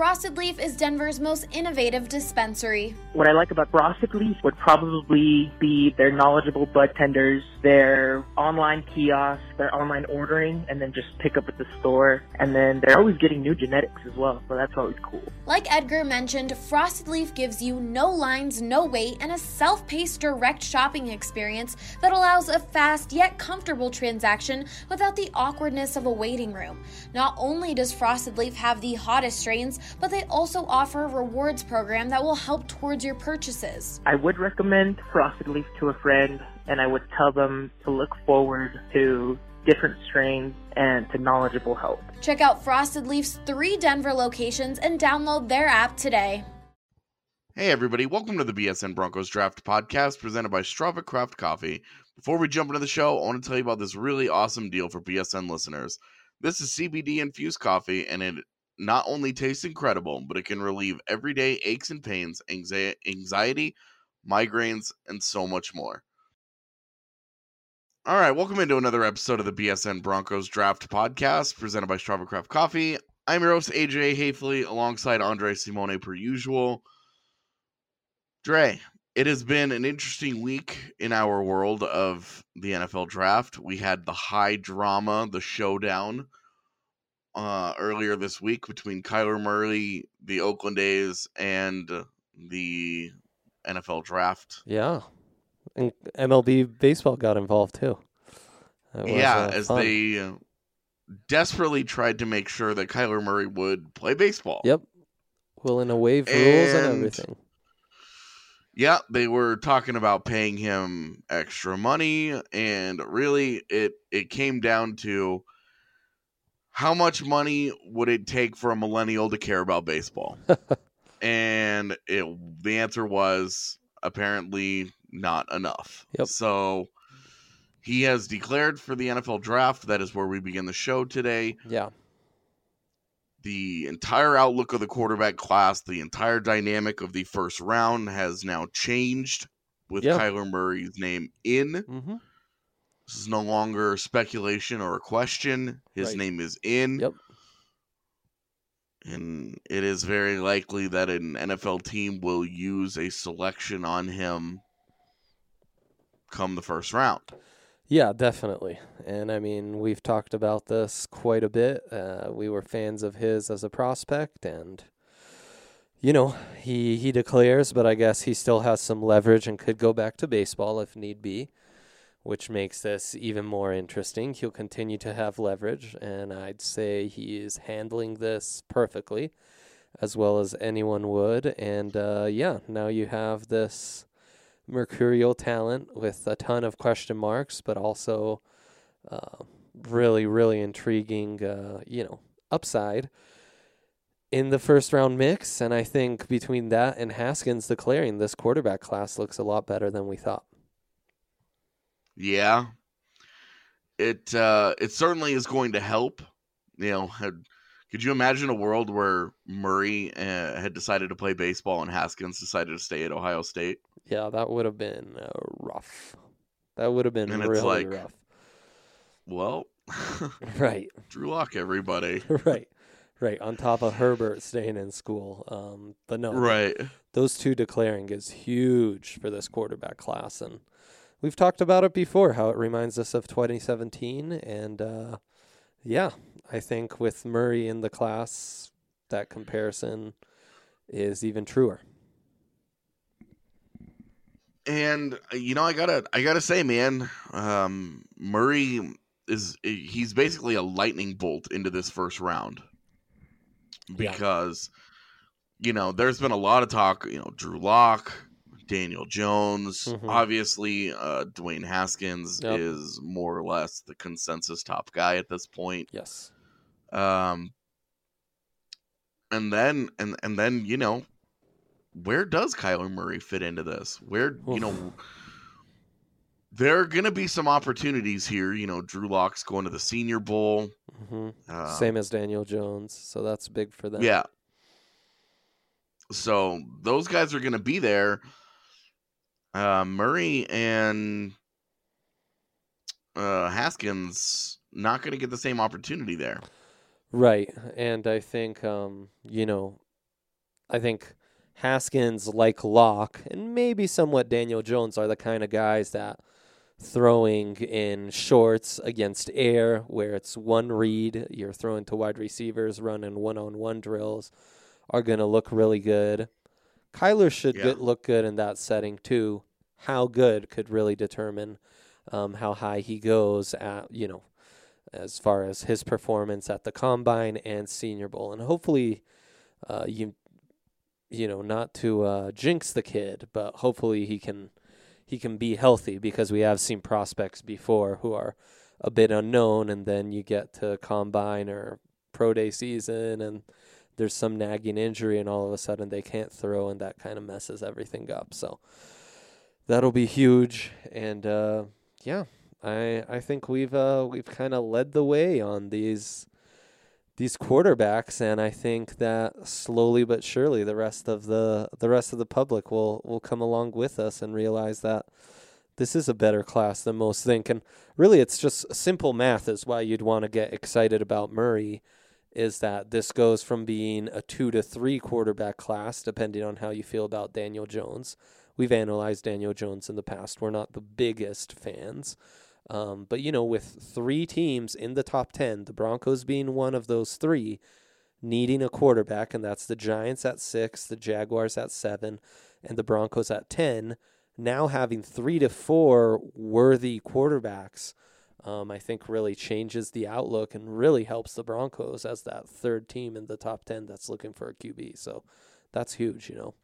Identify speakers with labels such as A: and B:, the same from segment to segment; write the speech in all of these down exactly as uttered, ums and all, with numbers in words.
A: Frosted Leaf is Denver's most innovative dispensary.
B: What I like about Frosted Leaf would probably be their knowledgeable bud tenders, their online kiosks, their online ordering, and then just pick up at the store. And then they're always getting new genetics as well, so that's always cool.
A: Like Edgar mentioned, Frosted Leaf gives you no lines, no wait, and a self-paced direct shopping experience that allows a fast yet comfortable transaction without the awkwardness of a waiting room. Not only does Frosted Leaf have the hottest strains, but they also offer a rewards program that will help towards your purchases.
B: I would recommend Frosted Leaf to a friend, and I would tell them to look forward to different strains and to knowledgeable help.
A: Check out Frosted Leaf's three Denver locations and download their app today.
C: Hey everybody, welcome to the B S N Broncos Draft Podcast presented by Strava Craft Coffee. Before we jump into the show, I want to tell you about this really awesome deal for B S N listeners. This is C B D infused coffee, and it not only tastes incredible, but it can relieve everyday aches and pains, anxiety, migraines, and so much more. All right, welcome into another episode of the B S N Broncos Draft Podcast presented by Strava Craft Coffee. I'm your host, A J Hafley, alongside Andre Simone per usual. Dre, it has been an interesting week in our world of the N F L Draft. We had the high drama, the showdown, uh, earlier this week between Kyler Murray, the Oakland A's, and the N F L Draft.
D: Yeah. And M L B baseball got involved too.
C: Was, yeah, uh, as fun. they uh, desperately tried to make sure that Kyler Murray would play baseball.
D: Yep. Willing to waive and, rules and everything.
C: Yeah, they were talking about paying him extra money, and really it, it came down to how much money would it take for a millennial to care about baseball? and it, the answer was apparently not enough.
D: Yep.
C: So he has declared for the N F L Draft. That is where we begin the show today.
D: Yeah.
C: The entire outlook of the quarterback class, the entire dynamic of the first round has now changed with
D: yep.
C: Kyler Murray's name in.
D: Mm-hmm.
C: This is no longer speculation or a question. His
D: right.
C: name is in.
D: Yep.
C: And it is very likely that an N F L team will use a selection on him come the first round.
D: Yeah, definitely. And I mean, we've talked about this quite a bit. Uh, we were fans of his as a prospect, and you know, he he declares, but I guess he still has some leverage and could go back to baseball if need be, which makes this even more interesting. He'll continue to have leverage, and I'd say he is handling this perfectly, as well as anyone would. And uh, yeah, now you have this mercurial talent with a ton of question marks, but also uh, really, really intriguing, uh, you know, upside in the first round mix. And I think between that and Haskins declaring, this quarterback class looks a lot better than we thought.
C: Yeah, it uh, it certainly is going to help. You know, had, could you imagine a world where Murray uh, had decided to play baseball and Haskins decided to stay at Ohio State?
D: Yeah, that would have been uh, rough. That would have been
C: and
D: really
C: it's like,
D: rough.
C: Well,
D: right.
C: Drew Lock, everybody.
D: right, right. On top of Herbert staying in school. Um, but no,
C: right.
D: Those two declaring is huge for this quarterback class. And we've talked about it before, how it reminds us of twenty seventeen. And uh, yeah, I think with Murray in the class, that comparison is even truer.
C: And you know, I gotta, I gotta say, man, um, Murray is he's basically a lightning bolt into this first round because, yeah. you know, there's been a lot of talk. You know, Drew Lock, Daniel Jones, mm-hmm. obviously, uh, Dwayne Haskins yep. is more or less the consensus top guy at this point.
D: Yes.
C: Um. And then, and and then, you know. Where does Kyler Murray fit into this? Where, Oof. you know, there are going to be some opportunities here. You know, Drew Lock's going to the Senior Bowl.
D: Mm-hmm. Um, Same as Daniel Jones, so that's big for them.
C: Yeah. So those guys are going to be there. Uh, Murray and uh, Haskins not going to get the same opportunity there.
D: Right, and I think, um, you know, I think Haskins, like Locke, and maybe somewhat Daniel Jones, are the kind of guys that throwing in shorts against air, where it's one read, you're throwing to wide receivers, running one-on-one drills, are going to look really good. Kyler should
C: Yeah.
D: get, look good in that setting too. How good could really determine um, how high he goes at, you know, as far as his performance at the Combine and Senior Bowl. And hopefully, uh, you you know, not to uh, jinx the kid, but hopefully he can he can be healthy, because we have seen prospects before who are a bit unknown, and then you get to Combine or Pro Day season, and there's some nagging injury, and all of a sudden they can't throw, and that kind of messes everything up. So that'll be huge, and uh, yeah, I I think we've uh, we've kind of led the way on these these quarterbacks, and I think that slowly but surely the rest of the the rest of the public will will come along with us and realize that this is a better class than most think. And really, it's just simple math is why you'd want to get excited about Murray, is that this goes from being a two to three quarterback class, depending on how you feel about Daniel Jones. We've analyzed Daniel Jones in the past. We're not the biggest fans. Um, but, you know, with three teams in the top ten, the Broncos being one of those three, needing a quarterback, and that's the Giants at six, the Jaguars at seven, and the Broncos at ten, now having three to four worthy quarterbacks, um, I think really changes the outlook and really helps the Broncos as that third team in the top ten that's looking for a Q B. So that's huge, you know.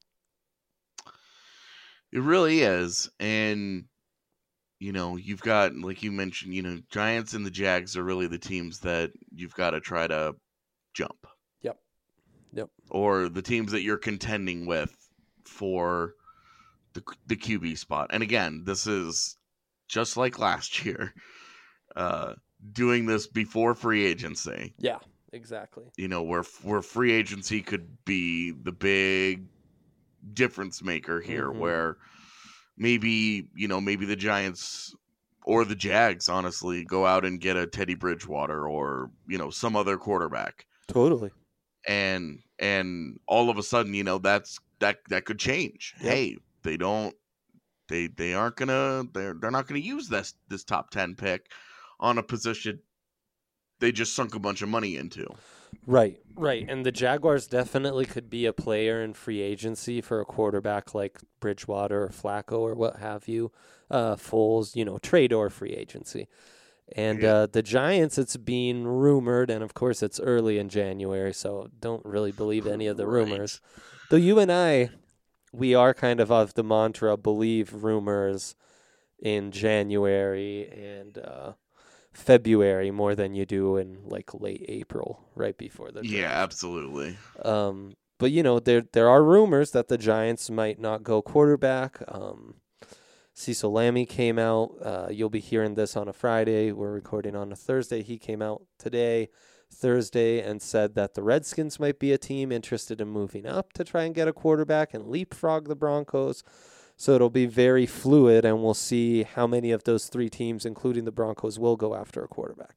C: It really is. And, you know, you've got, like you mentioned, you know, Giants and the Jags are really the teams that you've got to try to jump.
D: Yep. Yep.
C: Or the teams that you're contending with for the the Q B spot. And again, this is just like last year, uh, doing this before free agency.
D: Yeah, exactly.
C: You know, where where free agency could be the big difference maker here,
D: Mm-hmm.
C: where maybe, you know, maybe the Giants or the Jags, honestly, go out and get a Teddy Bridgewater or, you know, some other quarterback.
D: Totally.
C: And and all of a sudden, you know, that's that that could change.
D: Yep.
C: Hey, they don't they they aren't gonna they're they're not gonna use this this top ten pick on a position they just sunk a bunch of money into.
D: Right, right. And the Jaguars definitely could be a player in free agency for a quarterback like Bridgewater or Flacco or what have you. Uh, Foles, you know, trade or free agency. And
C: Yeah.
D: uh, the Giants, it's being rumored, and of course it's early in January, so don't really believe any of the
C: Right.
D: rumors. Though you and I, we are kind of of the mantra, believe rumors in January and uh, February more than you do in like late April, right before the draft.
C: Yeah, absolutely.
D: Um, but you know, there there are rumors that the Giants might not go quarterback. Um, Cecil Lammey came out. Uh, you'll be hearing this on a Friday. We're recording on a Thursday. He came out today, Thursday, and said that the Redskins might be a team interested in moving up to try and get a quarterback and leapfrog the Broncos. So it'll be very fluid, and we'll see how many of those three teams, including the Broncos, will go after a quarterback.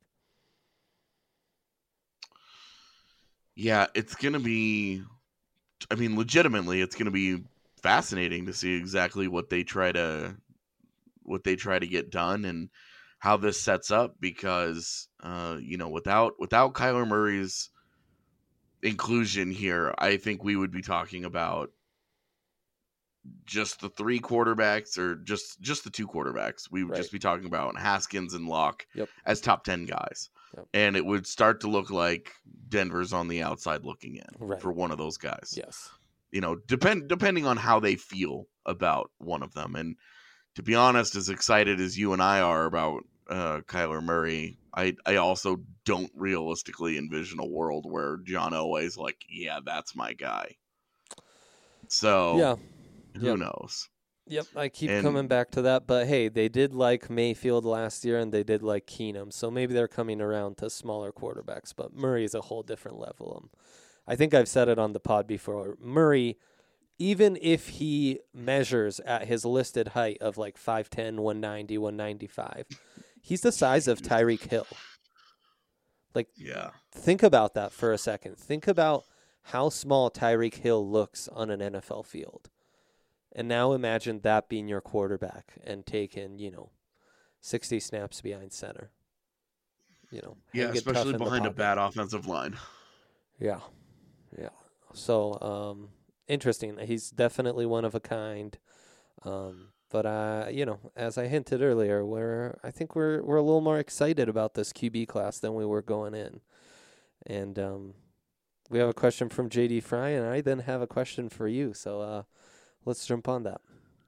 C: Yeah, it's going to be, I mean, legitimately, it's going to be fascinating to see exactly what they try to, what they try to get done and how this sets up, because, uh, you know, without, without Kyler Murray's inclusion here, I think we would be talking about just the three quarterbacks, or just, just the two quarterbacks. We would
D: Right.
C: just be talking about Haskins and Locke
D: Yep.
C: as top ten guys.
D: Yep.
C: And it would start to look like Denver's on the outside looking in
D: Right.
C: for one of those guys.
D: Yes.
C: You know, depend depending on how they feel about one of them. And to be honest, as excited as you and I are about uh, Kyler Murray, I, I also don't realistically envision a world where John Elway's like, yeah, that's my guy. So
D: Yeah.
C: who
D: Yep.
C: knows?
D: Yep, I keep
C: And-
D: coming back to that. But hey, they did like Mayfield last year, and they did like Keenum. So maybe they're coming around to smaller quarterbacks. But Murray is a whole different level. Um, I think I've said it on the pod before. Murray, even if he measures at his listed height of like five ten, one ninety, one ninety-five, he's the size of Tyreek Hill. Like,
C: Yeah.
D: think about that for a second. Think about how small Tyreek Hill looks on an N F L field. And now imagine that being your quarterback and taking, you know, sixty snaps behind center. You know,
C: Yeah,
D: hang it tough
C: especially
D: in the
C: behind a
D: pocket.
C: bad offensive line.
D: Yeah, yeah. So, um, interesting. He's definitely one of a kind. Um, but uh, you know, as I hinted earlier, we're I think we're we're a little more excited about this Q B class than we were going in. And um, we have a question from J D Fry, and I then have a question for you. So uh, let's jump on that.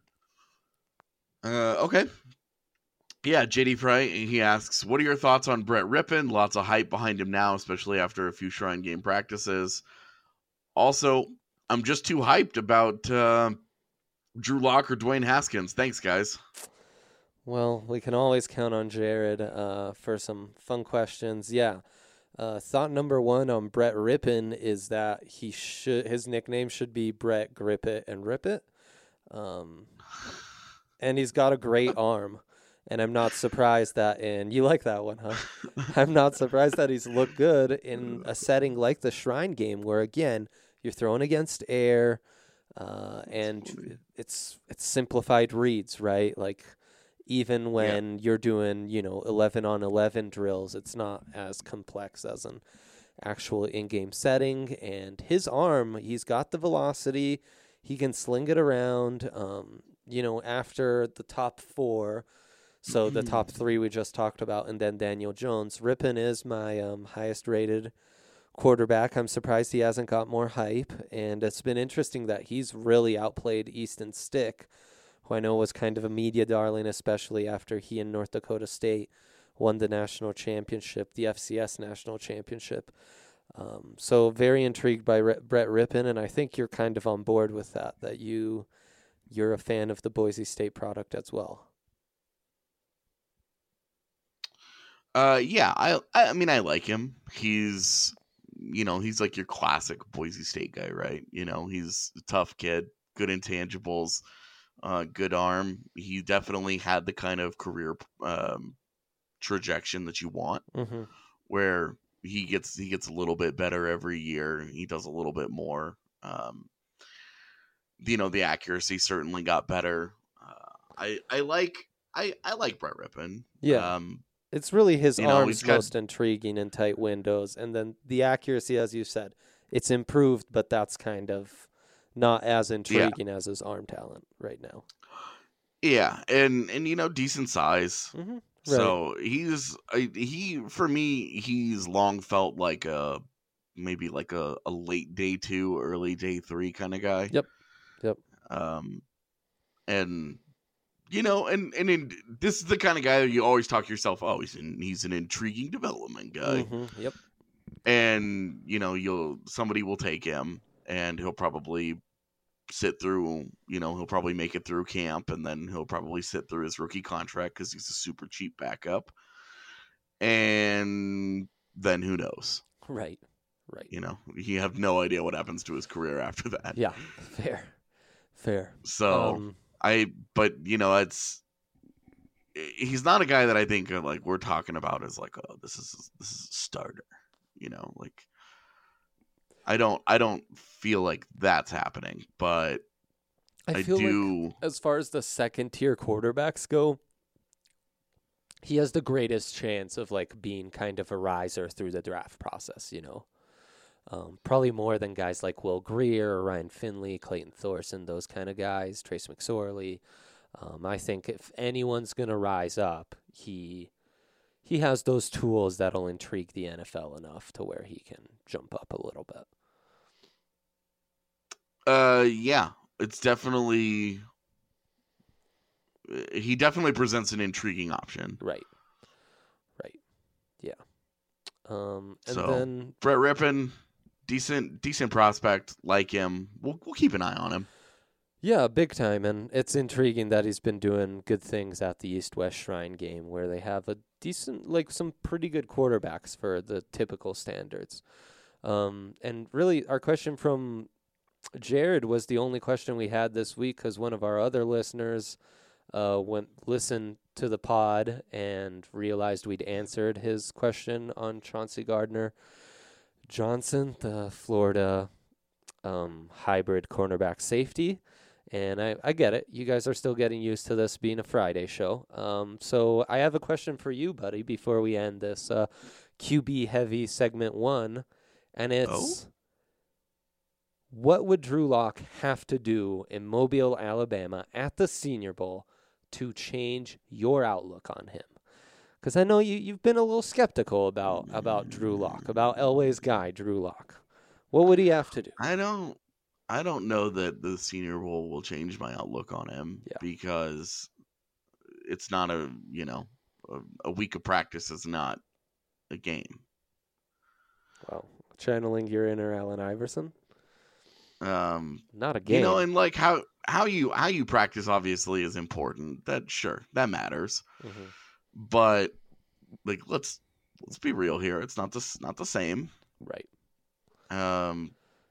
C: Uh, okay. Yeah, J D Fry, he asks, what are your thoughts on Brett Rippon? Lots of hype behind him now, especially after a few Shrine Game practices. Also, I'm just too hyped about uh, Drew Lock or Dwayne Haskins. Thanks, guys.
D: Well, we can always count on Jared uh, for some fun questions. Yeah. Uh, thought number one on Brett Rippon is that he should his nickname should be Brett Grip It and Rip It. Um, and he's got a great arm. And I'm not surprised that in you like that one, huh? I'm not surprised that he's looked good in a setting like the Shrine Game, where again you're throwing against air, uh, and it's it's simplified reads, right? Like even when yeah. you're doing you know eleven on eleven drills, it's not as complex as an actual in-game setting. And his arm, he's got the velocity, he can sling it around. Um, you know, after the top four. So the top three we just talked about, and then Daniel Jones. Rippon is my um, highest-rated quarterback. I'm surprised he hasn't got more hype, and it's been interesting that he's really outplayed Easton Stick, who I know was kind of a media darling, especially after he and North Dakota State won the national championship, the F C S national championship. Um, so very intrigued by R- Brett Rippon, and I think you're kind of on board with that, that you, you're a fan of the Boise State product as well.
C: Uh, yeah, I, I mean, I like him. He's, you know, he's like your classic Boise State guy, right? You know, he's a tough kid, good intangibles, uh, good arm. He definitely had the kind of career um, trajectory that you want,
D: mm-hmm.
C: where he gets he gets a little bit better every year. He does a little bit more. Um, you know, the accuracy certainly got better. Uh, I I like I I like Brett Rippon.
D: Yeah.
C: Um,
D: It's really his
C: you know,
D: arms
C: got,
D: most intriguing in tight windows. And then the accuracy, as you said, it's improved, but that's kind of not as intriguing yeah. as his arm talent right now.
C: Yeah, and, and you know, decent size.
D: Mm-hmm. Right.
C: So he's, he for me, he's long felt like a, maybe like a, a late day two, early day three kind of guy.
D: Yep, yep.
C: Um, and... You know, and, and in, this is the kind of guy that you always talk to yourself, oh, he's, in, he's an intriguing development guy.
D: Mm-hmm. Yep.
C: And, you know, you'll somebody will take him, and he'll probably sit through, you know, he'll probably make it through camp, and then he'll probably sit through his rookie contract because he's a super cheap backup. And then who knows?
D: Right, right.
C: You know, you have no idea what happens to his career after that.
D: Yeah, fair, fair.
C: So...
D: Um,
C: I, but you know, it's, he's not a guy that I think uh, like we're talking about as like, oh, this is, this is a starter, you know, like I don't, I don't feel like that's happening, but I, I
D: feel
C: do.
D: Like as far as the second tier quarterbacks go, he has the greatest chance of like being kind of a riser through the draft process, you know. Um, probably more than guys like Will Grier or Ryan Finley, Clayton Thorson, those kind of guys, Trace McSorley. Um, I think if anyone's going to rise up, he he has those tools that'll intrigue the N F L enough to where he can jump up a little bit.
C: Uh, yeah, it's definitely, he definitely presents an intriguing option.
D: Right. Right. Yeah. Um, and
C: so,
D: then
C: Brett Rippon, decent, decent prospect, like him. We'll we'll keep an eye on him.
D: Yeah, big time, and it's intriguing that he's been doing good things at the East-West Shrine Game, where they have a decent, like some pretty good quarterbacks for the typical standards. Um, and really, our question from Jared was the only question we had this week because one of our other listeners uh, went listened to the pod and realized we'd answered his question on Chauncey Gardner Johnson, the Florida um, hybrid cornerback safety. And I, I get it. You guys are still getting used to this being a Friday show. Um, so I have a question for you, buddy, before we end this uh, Q B heavy segment one. And it's,
C: Oh?
D: what would Drew Lock have to do in Mobile, Alabama at the Senior Bowl to change your outlook on him? Because I know you, you've been a little skeptical about, about Drew Lock, about Elway's guy, Drew Lock. What would he have to do?
C: I don't I don't know that the Senior Bowl will change my outlook on him
D: Yeah.
C: because it's not a, you know, a, a week of practice is not a game.
D: Well, channeling your inner Allen Iverson?
C: Um,
D: Not a game.
C: you know, and like how how you how you practice obviously is important. That sure, that matters.
D: Mhm.
C: But like let's let's be real here. It's not the not the same.
D: Right.
C: Um,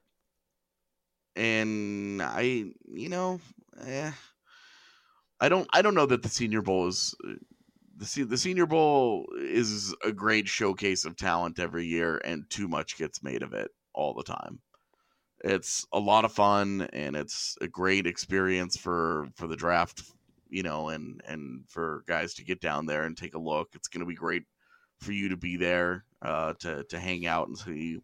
C: and I, you know, eh, I don't, I don't know that the Senior Bowl is the Se- the Senior Bowl is a great showcase of talent every year, and too much gets made of it all the time. It's a lot of fun, and it's a great experience for for the draft, you know, and and for guys to get down there and take a look. It's going to be great for you to be there, uh, to to hang out and see,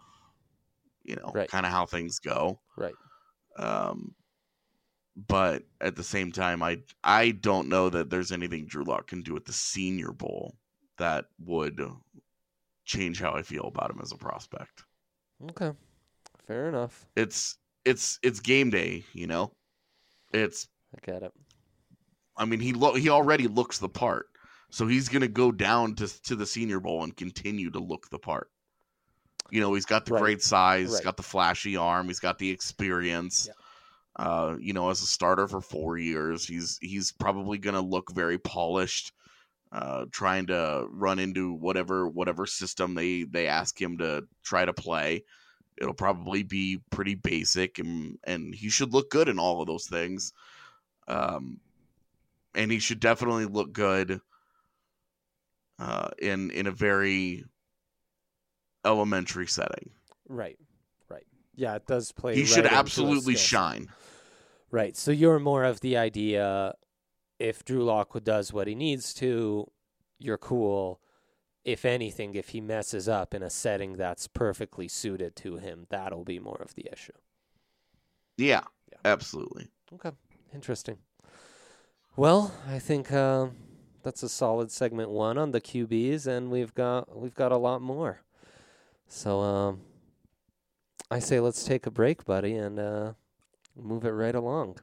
C: you know,
D: Right.
C: kind of how things go.
D: Right.
C: Um, but at the same time, I I don't know that there's anything Drew Lock can do at the Senior Bowl that would change how I feel about him as a prospect.
D: Okay. Fair enough.
C: It's it's it's game day, you know. It's
D: I get it.
C: I mean he lo- he already looks the part, so he's gonna go down to to the Senior Bowl and continue to look the part. You know, he's got the
D: Right.
C: great size, he's
D: Right.
C: got the flashy arm, he's got the experience.
D: Yeah.
C: Uh, you know, as a starter for four years, he's he's probably going to look very polished, uh, trying to run into whatever whatever system they they ask him to try to play. It'll probably be pretty basic, and and he should look good in all of those things. Um, and he should definitely look good uh, in in a very elementary setting.
D: Right. Right. Yeah, it does play.
C: He
D: right
C: should
D: into his
C: absolutely
D: skill set.
C: shine.
D: Right. So you're more of the idea, if Drew Lock does what he needs to, you're cool. If anything, if he messes up in a setting that's perfectly suited to him, that'll be more of the issue.
C: Yeah,
D: Yeah.
C: absolutely.
D: Okay. Interesting. Well, I think uh, that's a solid segment one on the Q Bs, and we've got we've got a lot more. So um, I say let's take a break, buddy, and uh, move it right along.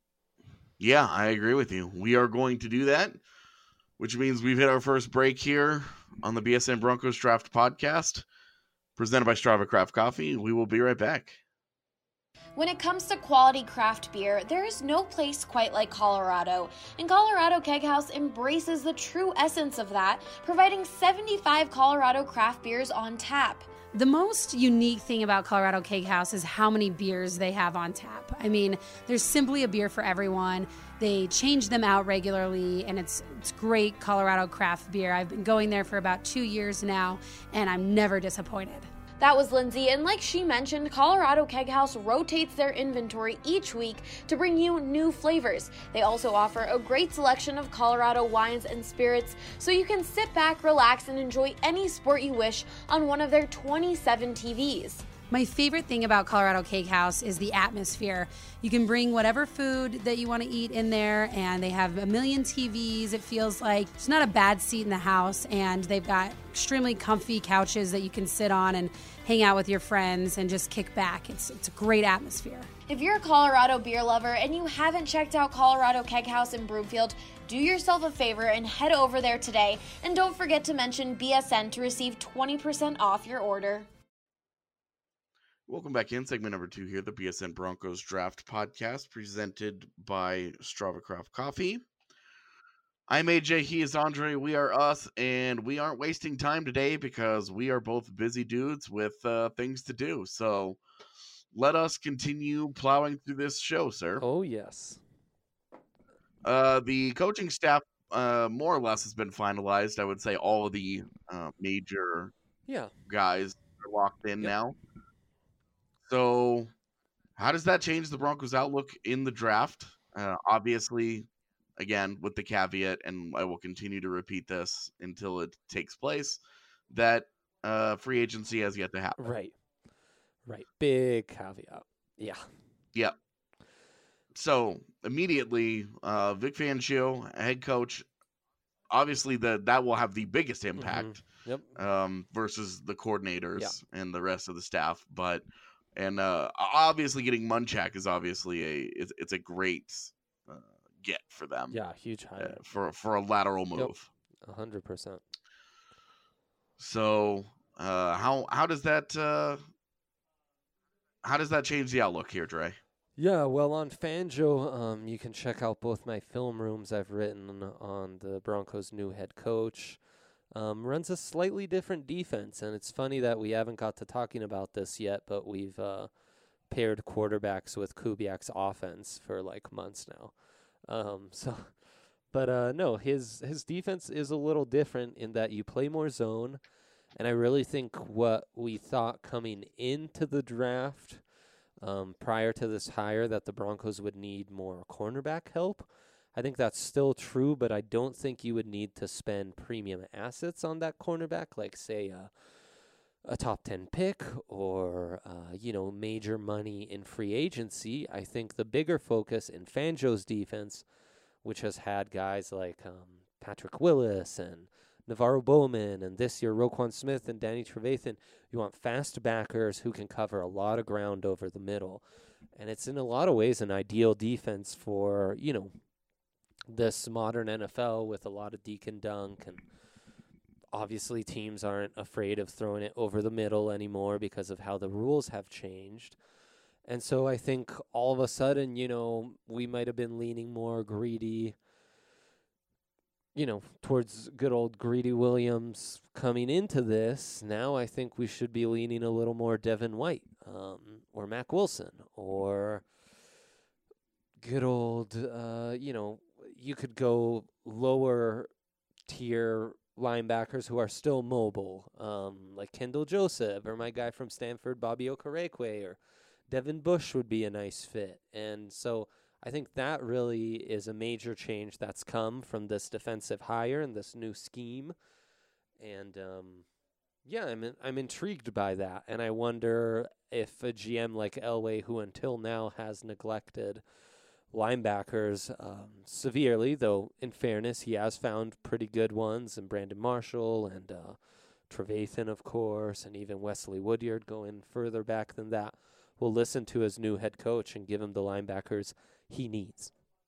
C: Yeah, I agree with you. We are going to do that, which means we've hit our first break here on the B S N Broncos Draft Podcast, presented by Strava Craft Coffee. We will be right back.
A: When it comes to quality craft beer, there is no place quite like Colorado, and Colorado Keg House embraces the true essence of that, providing seventy-five Colorado craft beers on tap.
E: The most unique thing about Colorado Keg House is how many beers they have on tap. I mean, there's simply a beer for everyone. They change them out regularly, and it's it's great Colorado craft beer. I've been going there for about two years now, and I'm never disappointed.
A: That was Lindsay, and like she mentioned, Colorado Keg House rotates their inventory each week to bring you new flavors. They also offer a great selection of Colorado wines and spirits, so you can sit back, relax, and enjoy any sport you wish on one of their twenty-seven T Vs.
E: My favorite thing about Colorado Cake House is the atmosphere. You can bring whatever food that you want to eat in there, and they have a million T Vs. It feels like it's not a bad seat in the house, and they've got extremely comfy couches that you can sit on and hang out with your friends and just kick back. It's it's a great atmosphere.
A: If you're a Colorado beer lover and you haven't checked out Colorado Keg House in Broomfield, do yourself a favor and head over there today. And don't forget to mention B S N to receive twenty percent off your order.
C: Welcome back in segment number two here, the B S N Broncos Draft Podcast, presented by Strava Craft Coffee. I'm A J, he is Andre, we are us, and we aren't wasting time today because we are both busy dudes with uh, things to do. So let us continue plowing through this show, sir.
D: Oh, yes.
C: Uh, the coaching staff uh, more or less has been finalized. I would say all of the uh, major
D: Yeah.
C: guys are locked in
D: Yep.
C: now. So How does that change the Broncos' outlook in the draft? Uh, obviously, again, with the caveat, and I will continue to repeat this until it takes place, that uh, free agency has yet to happen.
D: Right. Right. Big caveat. Yeah.
C: Yep. So immediately, uh, Vic Fangio, head coach, obviously the that will have the biggest impact.
D: Mm-hmm. Yep.
C: Um, versus the coordinators
D: Yeah.
C: and the rest of the staff, but and uh, obviously getting Munchak is obviously a it's, it's a great uh, get for them.
D: Yeah, huge hire
C: uh, for for a lateral move.
D: A hundred percent.
C: So uh, how how does that uh, how does that change the outlook here, Dre?
D: Yeah, well, on Fangio, um, you can check out both my film rooms I've written on the Broncos' new head coach. Um, runs a slightly different defense, and it's funny that we haven't got to talking about this yet, but we've uh, paired quarterbacks with Kubiak's offense for like months now. Um, so, but uh, no, his his defense is a little different in that you play more zone, and I really think what we thought coming into the draft. Um, prior to this hire, that the Broncos would need more cornerback help. I think that's still true, but I don't think you would need to spend premium assets on that cornerback, like, say, uh, a top ten pick or, uh, you know, major money in free agency. I think the bigger focus in Fangio's defense, which has had guys like um, Patrick Willis and Navarro Bowman, and this year Roquan Smith and Danny Trevathan. You want fast backers who can cover a lot of ground over the middle. And it's in a lot of ways an ideal defense for, you know, this modern N F L with a lot of deke and dunk. And obviously teams aren't afraid of throwing it over the middle anymore because of how the rules have changed. And so I think all of a sudden, you know, we might have been leaning more greedy, you know, towards good old Greedy Williams coming into this. Now I think we should be leaning a little more Devin White um, or Mac Wilson or good old, uh, you know, you could go lower tier linebackers who are still mobile, um, like Kendall Joseph or my guy from Stanford, Bobby Okereke, or Devin Bush would be a nice fit. And so I think that really is a major change that's come from this defensive hire and this new scheme. And, um, yeah, I'm in, I'm intrigued by that. And I wonder if a G M like Elway, who until now has neglected linebackers um, severely, though in fairness, he has found pretty good ones, and Brandon Marshall and uh, Trevathan, of course, and even Wesley Woodyard going further back than that, will listen to his new head coach and give him the linebackers he needs.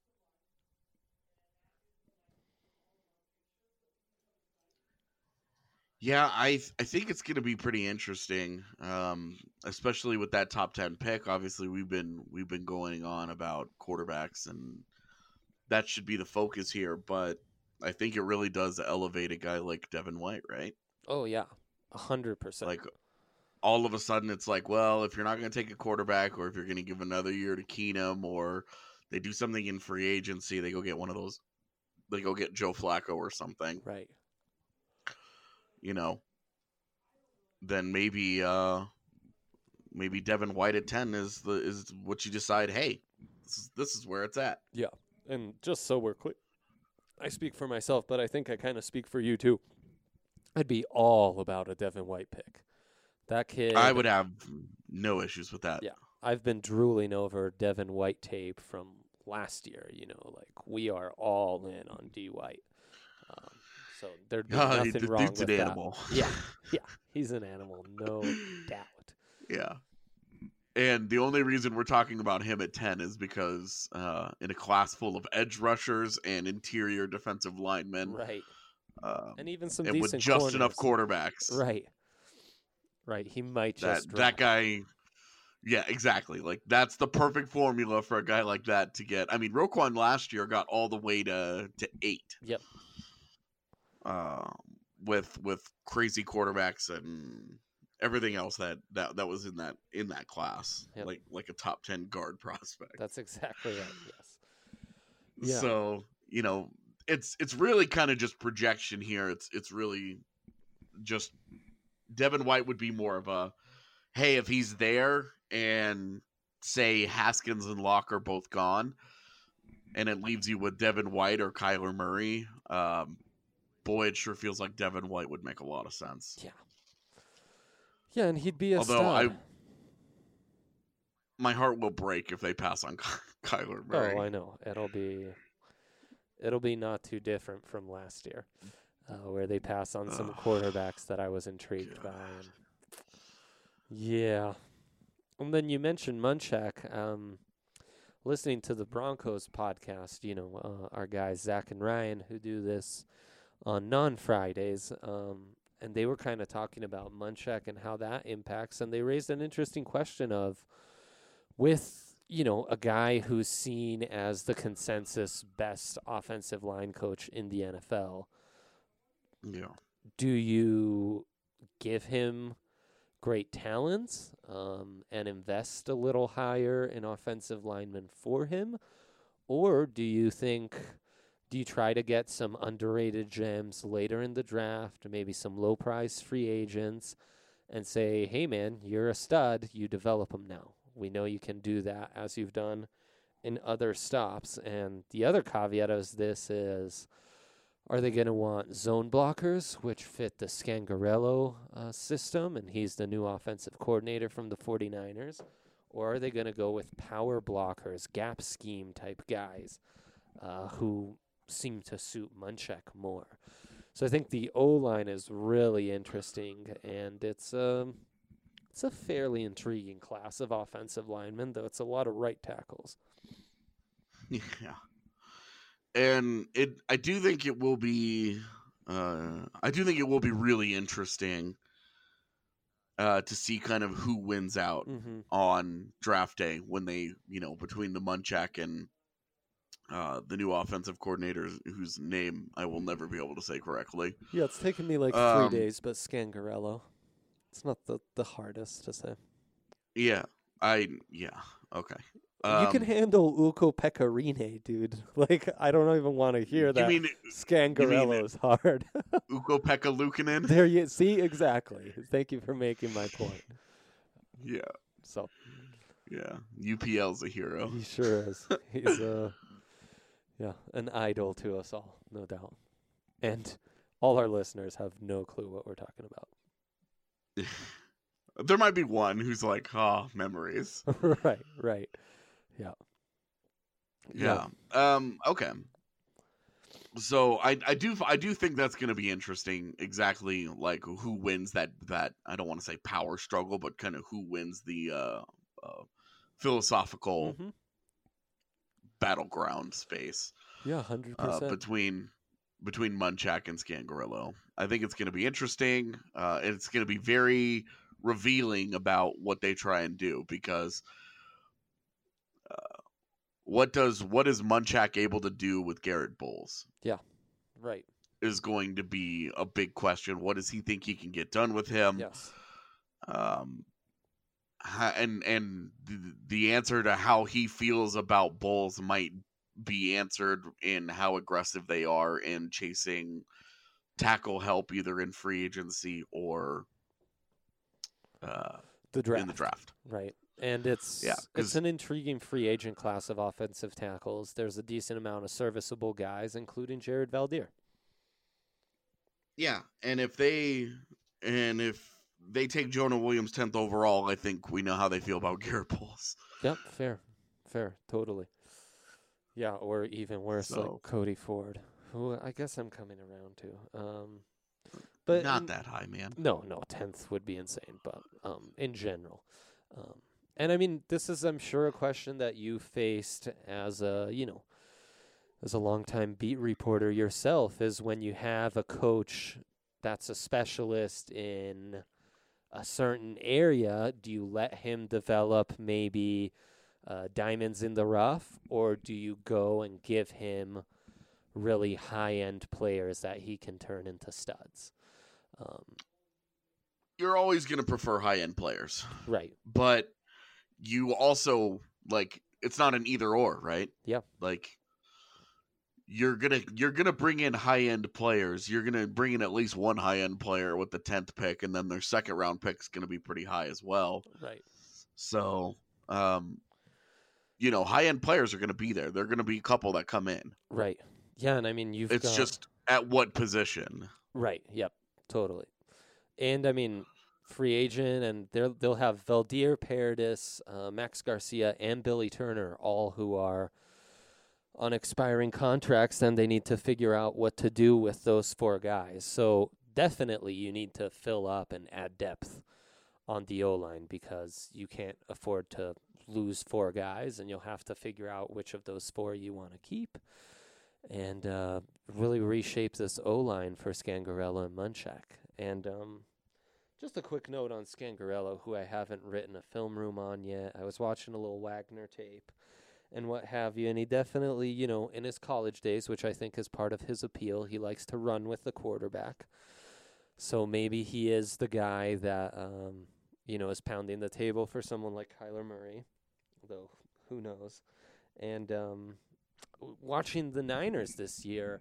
C: Yeah, I th- I think it's going to be pretty interesting, um, especially with that top ten pick. Obviously, we've been we've been going on about quarterbacks, and that should be the focus here. But I think it really does elevate a guy like Devin White, right?
D: Oh yeah, a hundred percent.
C: Like all of a sudden, it's like, well, if you're not going to take a quarterback, or if you're going to give another year to Keenum, or they do something in free agency, they go get one of those, they go get Joe Flacco or something,
D: right?
C: You know, then maybe uh, maybe Devin White at ten is the is what you decide. Hey, this is this is where it's at.
D: Yeah, and just so we're clear, I speak for myself, but I think I kind of speak for you too. I'd be all about a Devin White pick. That kid,
C: I would have no issues with that.
D: Yeah, I've been drooling over Devin White tape from last year. You know, like we are all in on D White. Um, So there'd be
C: oh,
D: nothing
C: the
D: wrong
C: dude's
D: with
C: an
D: that.
C: animal.
D: Yeah, yeah, he's an animal, no doubt.
C: Yeah. And the only reason we're talking about him at ten is because uh, in a class full of edge rushers and interior defensive linemen,
D: Right.
C: Um,
D: And even some
C: and
D: decent
C: with just
D: corners.
C: enough quarterbacks,
D: Right. Right. He might
C: that
D: just drop.
C: that guy. Yeah, exactly. Like that's the perfect formula for a guy like that to get. I mean, Roquan last year got all the way to to eight.
D: Yep.
C: Uh, with with crazy quarterbacks and everything else that, that, that was in that in that class,
D: Yep.
C: like like a top ten guard prospect.
D: That's exactly right. Yes. Yeah.
C: So you know, it's it's really kind of just projection here. It's it's really just Devin White would be more of a, hey, if he's there and say Haskins and Locke are both gone, and it leaves you with Devin White or Kyler Murray, um, boy, it sure feels like Devin White would make a lot of sense.
D: Yeah. Yeah, and he'd be a
C: Although
D: stud.
C: I, my heart will break if they pass on Kyler Murray.
D: Oh, I know. It'll be, it'll be not too different from last year, uh, where they pass on some
C: Ugh.
D: quarterbacks that I was intrigued
C: God.
D: by. And yeah. And then you mentioned Munchak. Um, listening to the Broncos podcast, you know, uh, our guys Zach and Ryan who do this on non-Fridays, um, and they were kind of talking about Munchak and how that impacts, and they raised an interesting question of, with, you know, a guy who's seen as the consensus best offensive line coach in the N F L,
C: Yeah.
D: do you give him great talents um, and invest a little higher in offensive linemen for him? Or do you think, do you try to get some underrated gems later in the draft, maybe some low price free agents, and say, hey man, you're a stud, you develop them now. We know you can do that as you've done in other stops. And the other caveat is this is, are they going to want zone blockers, which fit the Scangarello uh, system, and he's the new offensive coordinator from the 49ers? Or are they going to go with power blockers, gap scheme type guys uh, who seem to suit Munchak more? So I think the O-line is really interesting, and it's, um, it's a fairly intriguing class of offensive linemen, though it's a lot of right tackles.
C: Yeah. And it, I do think it will be, uh, I do think it will be really interesting uh, to see kind of who wins out
D: Mm-hmm.
C: on draft day when they, you know, between the Munchak and uh, the new offensive coordinator whose name I will never be able to say correctly.
D: Yeah, it's taken me like three
C: Um,
D: days, but Scangarello. It's not the, the hardest to say.
C: Yeah, I, yeah, okay.
D: you can
C: Um,
D: handle Uko Pecorine, dude. Like, I don't even want to hear
C: You
D: that.
C: mean
D: Scangarello is hard.
C: Ukko Pekka Luukkonen?
D: There you see, exactly. Thank you for making my point.
C: Yeah,
D: So
C: yeah. U P L's a hero.
D: he sure is. He's uh, yeah, an idol to us all, no doubt. And all our listeners have no clue what we're talking about.
C: There might be one who's like, ah, oh, memories.
D: right, right. Yeah.
C: Yeah. Um. Okay. So I I do I do think that's going to be interesting. Exactly, like who wins that that I don't want to say power struggle, but kind of who wins the uh, uh philosophical
D: Mm-hmm.
C: battleground space.
D: Yeah, hundred
C: uh,
D: percent.
C: between between Munchak and Scangarello. I think it's going to be interesting. Uh, it's going to be very revealing about what they try and do, because uh, what does what is Munchak able to do with Garrett Bowles
D: Right.
C: is going to be a big question. What does he think he can get done with him?
D: Yes.
C: Um, ha- and and the, the answer to how he feels about Bowles might be answered in how aggressive they are in chasing tackle help, either in free agency or uh,
D: The draft.
C: in the draft.
D: Right. And it's
C: Yeah, 'cause-
D: it's an intriguing free agent class of offensive tackles. There's a decent amount of serviceable guys, including Jared Valdir.
C: Yeah, and if they and if they take Jonah Williams tenth overall, I think we know how they feel about Garrett Bowles.
D: Yep, fair. Fair, totally. Yeah, or even worse,
C: So-
D: like Cody Ford, who I guess I'm coming around to. Um, but
C: Not
D: in-
C: that high, man.
D: No, no, tenth would be insane, but um, in general. Um, and I mean, this is, I'm sure, a question that you faced as a, you know, as a longtime beat reporter yourself, is when you have a coach that's a specialist in a certain area, do you let him develop maybe uh, diamonds in the rough, or do you go and give him really high-end players that he can turn into studs? Um,
C: You're always going to prefer high end players,
D: right.
C: but you also like it's not an either or, right?
D: Yeah.
C: Like you're gonna you're gonna bring in high end players. You're gonna bring in at least one high end player with the tenth pick, and then their second round pick is gonna be pretty high as well.
D: Right.
C: So, um, you know, high-end players are going to be there. They're going to be a couple that come in.
D: Right. Yeah, and I mean, you've
C: It's
D: got...
C: just at what position.
D: Right. Yep. Totally. And I mean, free agent, and they'll they'll have Valdir Paredes, uh, Max Garcia, and Billy Turner, all who are on expiring contracts. Then they need to figure out what to do with those four guys. So definitely, you need to fill up and add depth on the O-line because you can't afford to lose four guys, and you'll have to figure out which of those four you want to keep. And uh, really reshape this O-line for Scangarello and Munchak. And um, just a quick note on Scangarello, who I haven't written a film room on yet. I was watching a little Wagner tape and what have you, and he definitely, you know, in his college days, which I think is part of his appeal, he likes to run with the quarterback. So maybe he is the guy that, um, you know, is pounding the table for someone like Kyler Murray, though who knows. And... Um, watching the Niners this year,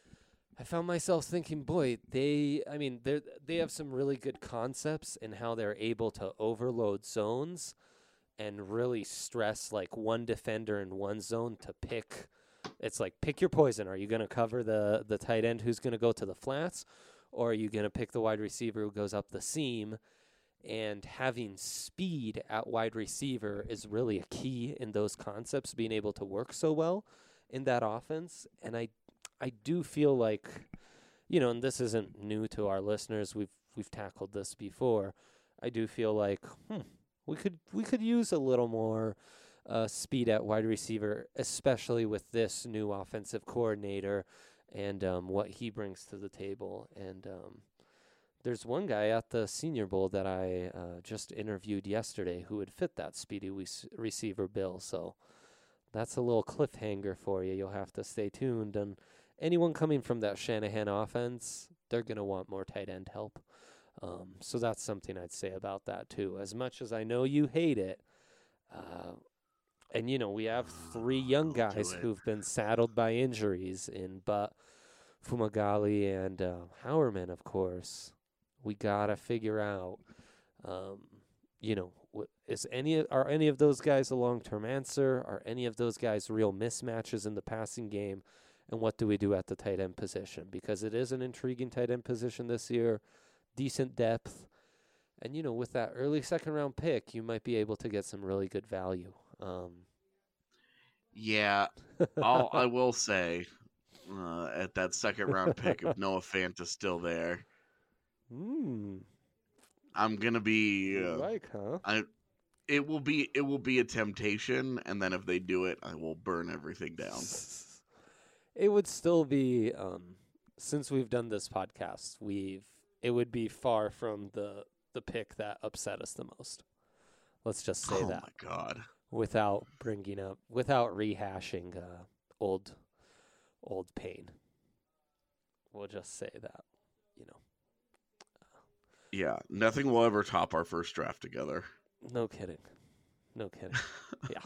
D: I found myself thinking, boy, they, I mean, they they have some really good concepts in how they're able to overload zones and really stress like one defender in one zone to pick. It's like, pick your poison. Are you going to cover the, the tight end who's going to go to the flats, or are you going to pick the wide receiver who goes up the seam? And having speed at wide receiver is really a key in those concepts, being able to work so well in that offense. And I I do feel like, you know, and this isn't new to our listeners, we've we've tackled this before. I do feel like hmm, we could we could use a little more uh, speed at wide receiver, especially with this new offensive coordinator and um, what he brings to the table. And um, there's one guy at the Senior Bowl that I uh, just interviewed yesterday who would fit that speedy we- receiver bill. So that's a little cliffhanger for you. You'll have to stay tuned. And anyone coming from that Shanahan offense, they're going to want more tight end help. Um, so that's something I'd say about that too. As much as I know you hate it, uh, and, you know, we have three young guys who've been saddled by injuries in but Fumagalli and uh, Howerman, of course. We gotta figure out, um, you know, what, is any are any of those guys a long-term answer? Are any of those guys real mismatches in the passing game? And what do we do at the tight end position? Because it is an intriguing tight end position this year, decent depth, and you know, with that early second-round pick, you might be able to get some really good value. Um,
C: yeah, I'll, I will say uh, at that second-round pick, if Noah Fant is still there.
D: Mm.
C: I'm gonna be uh,
D: like, huh?
C: I. It will be. It will be a temptation, and then if they do it, I will burn everything down.
D: It would still be. Um, since we've done this podcast, we've. It would be far from the the pick that upset us the most. Let's just say
C: oh
D: that.
C: Oh my god!
D: Without bringing up, without rehashing uh, old, old pain. We'll just say that. You know.
C: Yeah, nothing will ever top our first draft together.
D: No kidding. No kidding. Yeah.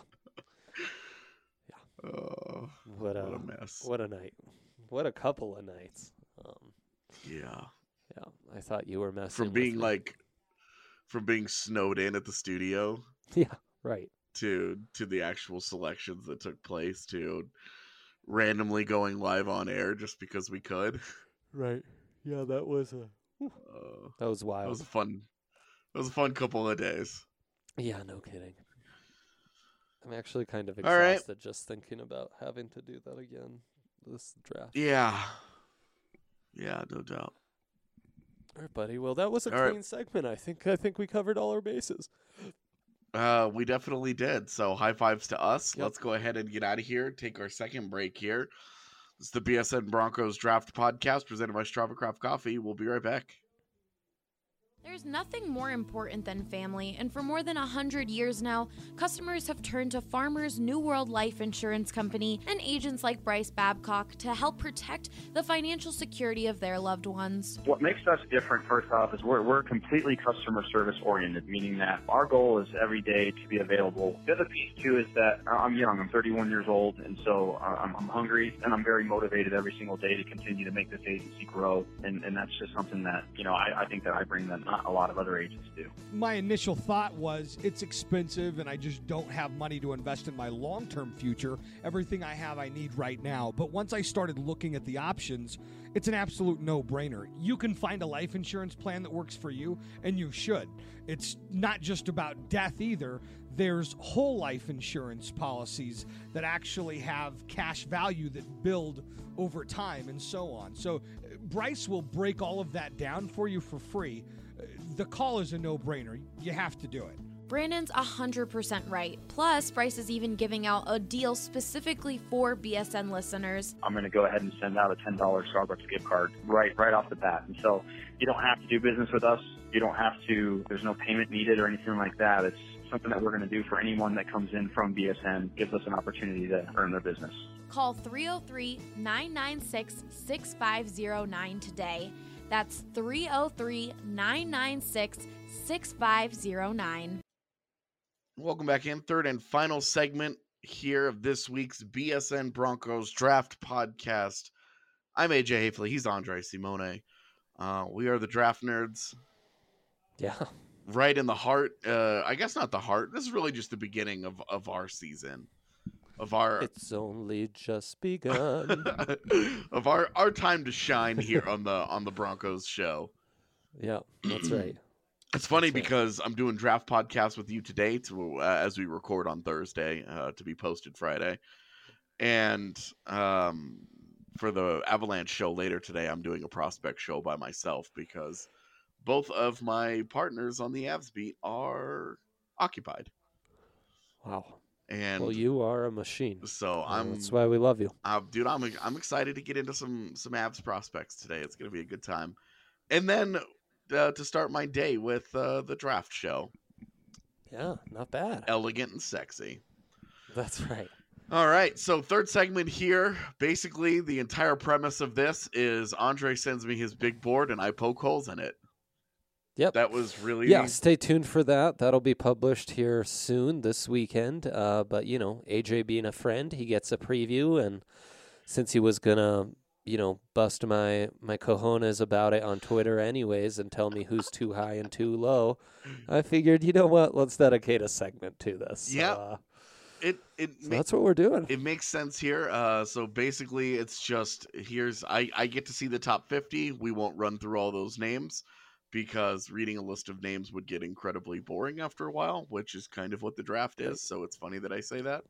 D: Yeah.
C: Uh,
D: what, a,
C: what a mess.
D: What a night. What a couple of nights. Um,
C: yeah.
D: Yeah. I thought you were messing
C: From
D: with
C: being
D: me.
C: like, from being snowed in at the studio.
D: Yeah, right.
C: To, to the actual selections that took place, to randomly going live on air just because we could.
D: Right. Yeah, that was a...
C: Uh,
D: that was wild.
C: That was a fun. That was a fun couple of days.
D: Yeah, no kidding. I'm actually kind of
C: All
D: exhausted
C: right.
D: just thinking about having to do that again this draft.
C: Yeah. Yeah, no doubt.
D: All right, buddy. Well, that was a
C: all
D: clean
C: right.
D: segment. I think. I think we covered all our bases.
C: Uh, we definitely did. So high fives to us.
D: Yep.
C: Let's go ahead and get out of here. Take our second break here. It's the B S N Broncos Draft Podcast presented by Strava Craft Coffee. We'll be right back.
A: There's nothing more important than family, and for more than one hundred years now, customers have turned to Farmers New World Life Insurance Company and agents like Bryce Babcock to help protect the financial security of their loved ones.
F: What makes us different, first off, is we're, we're completely customer service oriented, meaning that our goal is every day to be available. The other piece, too, is that I'm young. I'm thirty-one years old, and so I'm, I'm hungry, and I'm very motivated every single day to continue to make this agency grow, and, and that's just something that, you know, I, I think that I bring them. not a lot of other agents do.
G: My initial thought was it's expensive and I just don't have money to invest in my long-term future. Everything I have I need right now. But once I started looking at the options, it's an absolute no-brainer. You can find a life insurance plan that works for you, and you should. It's not just about death either. There's whole life insurance policies that actually have cash value that build over time and so on. So Bryce will break all of that down for you for free. The call is a no-brainer. You have to do it.
A: Brandon's one hundred percent right. Plus, Bryce is even giving out a deal specifically for B S N listeners.
F: I'm going to go ahead and send out a ten dollars Starbucks gift card right right off the bat. And so you don't have to do business with us. You don't have to, there's no payment needed or anything like that. It's something that we're going to do for anyone that comes in from B S N, gives us an opportunity to earn their business.
A: Call three oh three, nine nine six, six five oh nine today. That's three oh three, nine nine six, six five oh nine.
C: Welcome back in. Third and final segment here of this week's B S N Broncos Draft Podcast. I'm A J Hafley. He's Andre Simone. Uh, we are the Draft Nerds.
D: Yeah.
C: Right in the heart. Uh, I guess not the heart. This is really just the beginning of, of our season. Of our
D: It's only just begun.
C: of our, our time to shine here on the on the Broncos show.
D: Yeah, that's right.
C: It's funny
D: That's right.
C: because I'm doing draft podcasts with you today to uh, as we record on Thursday uh, to be posted Friday, and um, for the Avalanche show later today, I'm doing a prospect show by myself because both of my partners on the Avs beat are occupied.
D: Wow.
C: And
D: well, you are a machine.
C: So
D: Uh,
C: I'm.
D: That's why we love you.
C: Uh, dude, I'm I'm excited to get into some some Avs prospects today. It's gonna be a good time, and then uh, to start my day with uh, the draft show.
D: Yeah, not bad.
C: Elegant and sexy.
D: That's right.
C: All right, so third segment here. Basically, the entire premise of this is Andre sends me his big board and I poke holes in it.
D: Yep.
C: That was really...
D: Yeah, stay tuned for that. That'll be published here soon this weekend. Uh, but, you know, A J being a friend, he gets a preview. And since he was going to, you know, bust my, my cojones about it on Twitter anyways and tell me who's too high and too low, I figured, you know what, let's dedicate a segment to this.
C: Yeah.
D: Uh,
C: It, it
D: so
C: ma-
D: that's what we're doing.
C: It makes sense here. Uh, so basically, it's just, here's... I, I get to see the top fifty. We won't run through all those names, because reading a list of names would get incredibly boring after a while, which is kind of what the draft is. So it's funny that I say that.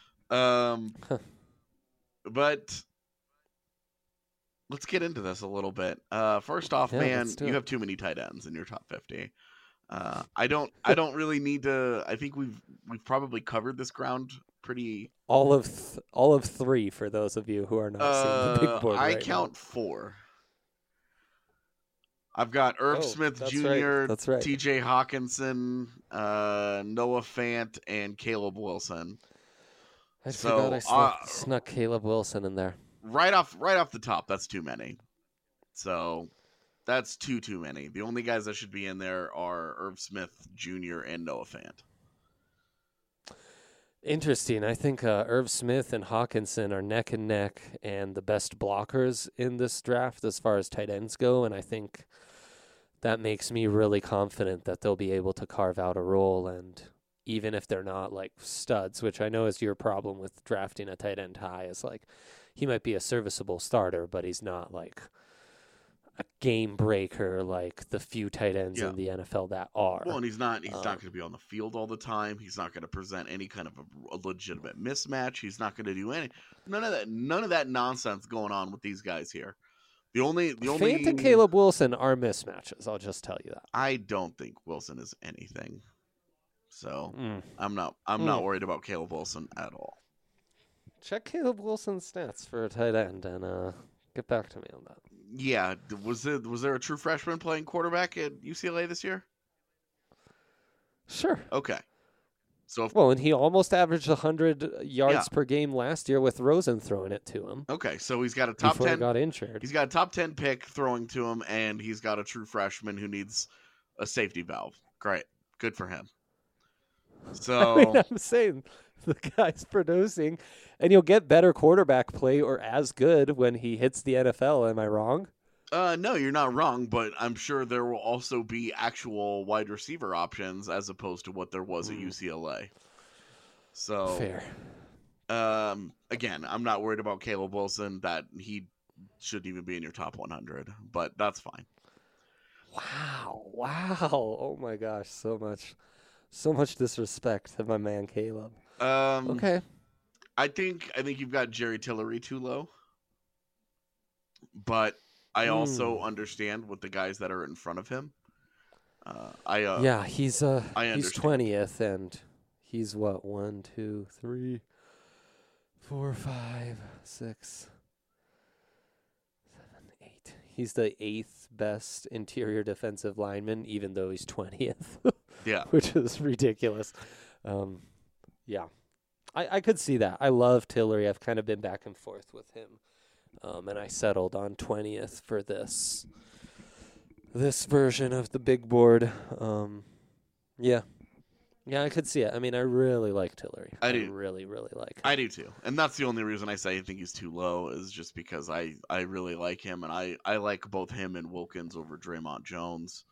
C: Um, but let's get into this a little bit. Uh, first off,
D: Yeah,
C: man,
D: let's do
C: you
D: it.
C: have too many tight ends in your top fifty. Uh, I don't. I don't really need to. I think we've we've probably covered this ground pretty.
D: All of th- all of three for those of you who are not seeing the
C: Uh,
D: big board
C: I
D: right
C: count four. I've got Irv
D: Oh,
C: Smith
D: that's
C: Junior,
D: right. That's right.
C: T J Hawkinson, uh, Noah Fant, and Caleb Wilson.
D: I
C: So,
D: forgot I snuck,
C: uh,
D: snuck Caleb Wilson in there.
C: Right off, right off the top, that's too many. So that's too too many. The only guys that should be in there are Irv Smith Junior and Noah Fant.
D: Interesting. I think uh, Irv Smith and Hawkinson are neck and neck and the best blockers in this draft as far as tight ends go. And I think that makes me really confident that they'll be able to carve out a role. And even if they're not like studs, which I know is your problem with drafting a tight end high, is like he might be a serviceable starter, but he's not like a game breaker like the few tight ends
C: Yeah.
D: in the N F L that are.
C: Well, and he's not he's
D: Um,
C: not going to be on the field all the time. He's not going to present any kind of a, a legitimate mismatch. He's not going to do any none of that none of that nonsense going on with these guys here. The only the only
D: Fant and Caleb Wilson are mismatches. I'll just tell you that.
C: I don't think Wilson is anything. So
D: Mm.
C: I'm not I'm
D: Mm.
C: not worried about Caleb Wilson at all.
D: Check Caleb Wilson's stats for a tight end and uh, get back to me on that.
C: Yeah, d- was it was there a true freshman playing quarterback at U C L A this year?
D: Sure.
C: Okay. So if,
D: Well, and he almost averaged one hundred yards
C: Yeah.
D: per game last year with Rosen throwing it to him
C: okay, so he's got a top
D: before he
C: ten
D: got injured.
C: he's got a top ten pick throwing to him, and he's got a true freshman who needs a safety valve. Great. Good for him. So
D: I mean, I'm saying the guy's producing, and you'll get better quarterback play or as good when he hits the N F L. Am I wrong?
C: Uh, no, you're not wrong, but I'm sure there will also be actual wide receiver options as opposed to what there was at
D: Mm.
C: U C L A. So,
D: Fair.
C: um, again, I'm not worried about Caleb Wilson. That he shouldn't even be in your top one hundred, but that's fine.
D: Wow. Wow. Oh my gosh. So much, so much disrespect to my man Caleb.
C: Um,
D: Okay.
C: I think I think you've got Jerry Tillery too low, but I also
D: Mm.
C: understand with the guys that are in front of him. Uh, I uh,
D: Yeah, he's uh
C: I
D: he's
C: understand.
D: twentieth, and he's what one, two, three, four, five, six, seven, eight. He's the eighth best interior defensive lineman, even though he's twentieth,
C: yeah.
D: which is ridiculous. Um, yeah, I I could see that. I love Tillery. I've kind of been back and forth with him, um, and I settled on twentieth for this. This version of the big board. Um, yeah. Yeah, I could see it. I mean, I really like Tillery.
C: I do.
D: really, really like him.
C: I do too, and that's the only reason I say I think he's too low is just because I, I really like him, and I, I like both him and Wilkins over Draymond Jones.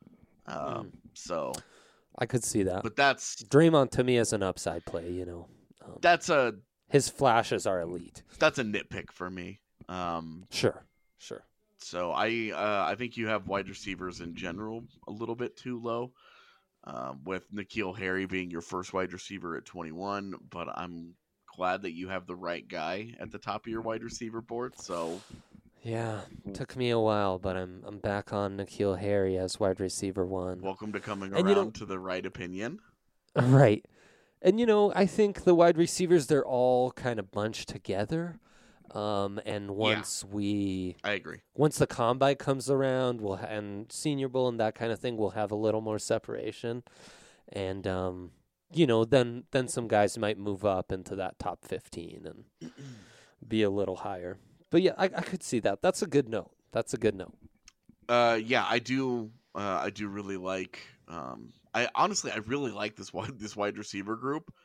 C: Um,
D: Mm.
C: So,
D: I could see that.
C: but that's
D: Draymond, to me, is an upside play, you know. Um,
C: that's a
D: his flashes are elite.
C: that's a nitpick for me. Um,
D: Sure, sure.
C: so I uh, I think you have wide receivers in general a little bit too low. Um, with N'Keal Harry being your first wide receiver at twenty-one, but I'm glad that you have the right guy at the top of your wide receiver board. So,
D: Yeah, took me a while, but I'm I'm back on N'Keal Harry as wide receiver one.
C: welcome to coming
D: And
C: around
D: you know-
C: to the right opinion.
D: Right. And, you know, I think the wide receivers, they're all kind of bunched together. Um, and once we,
C: I agree.
D: once the combine comes around, we'll ha- and Senior Bowl and that kind of thing, we'll have a little more separation. And, um, you know, then, then some guys might move up into that top fifteen and be a little higher. But, yeah, I, I could see that. That's a good note. That's a good note.
C: Uh, yeah, I do. Uh, I do really like. Um, I honestly, I really like this wide this wide receiver group.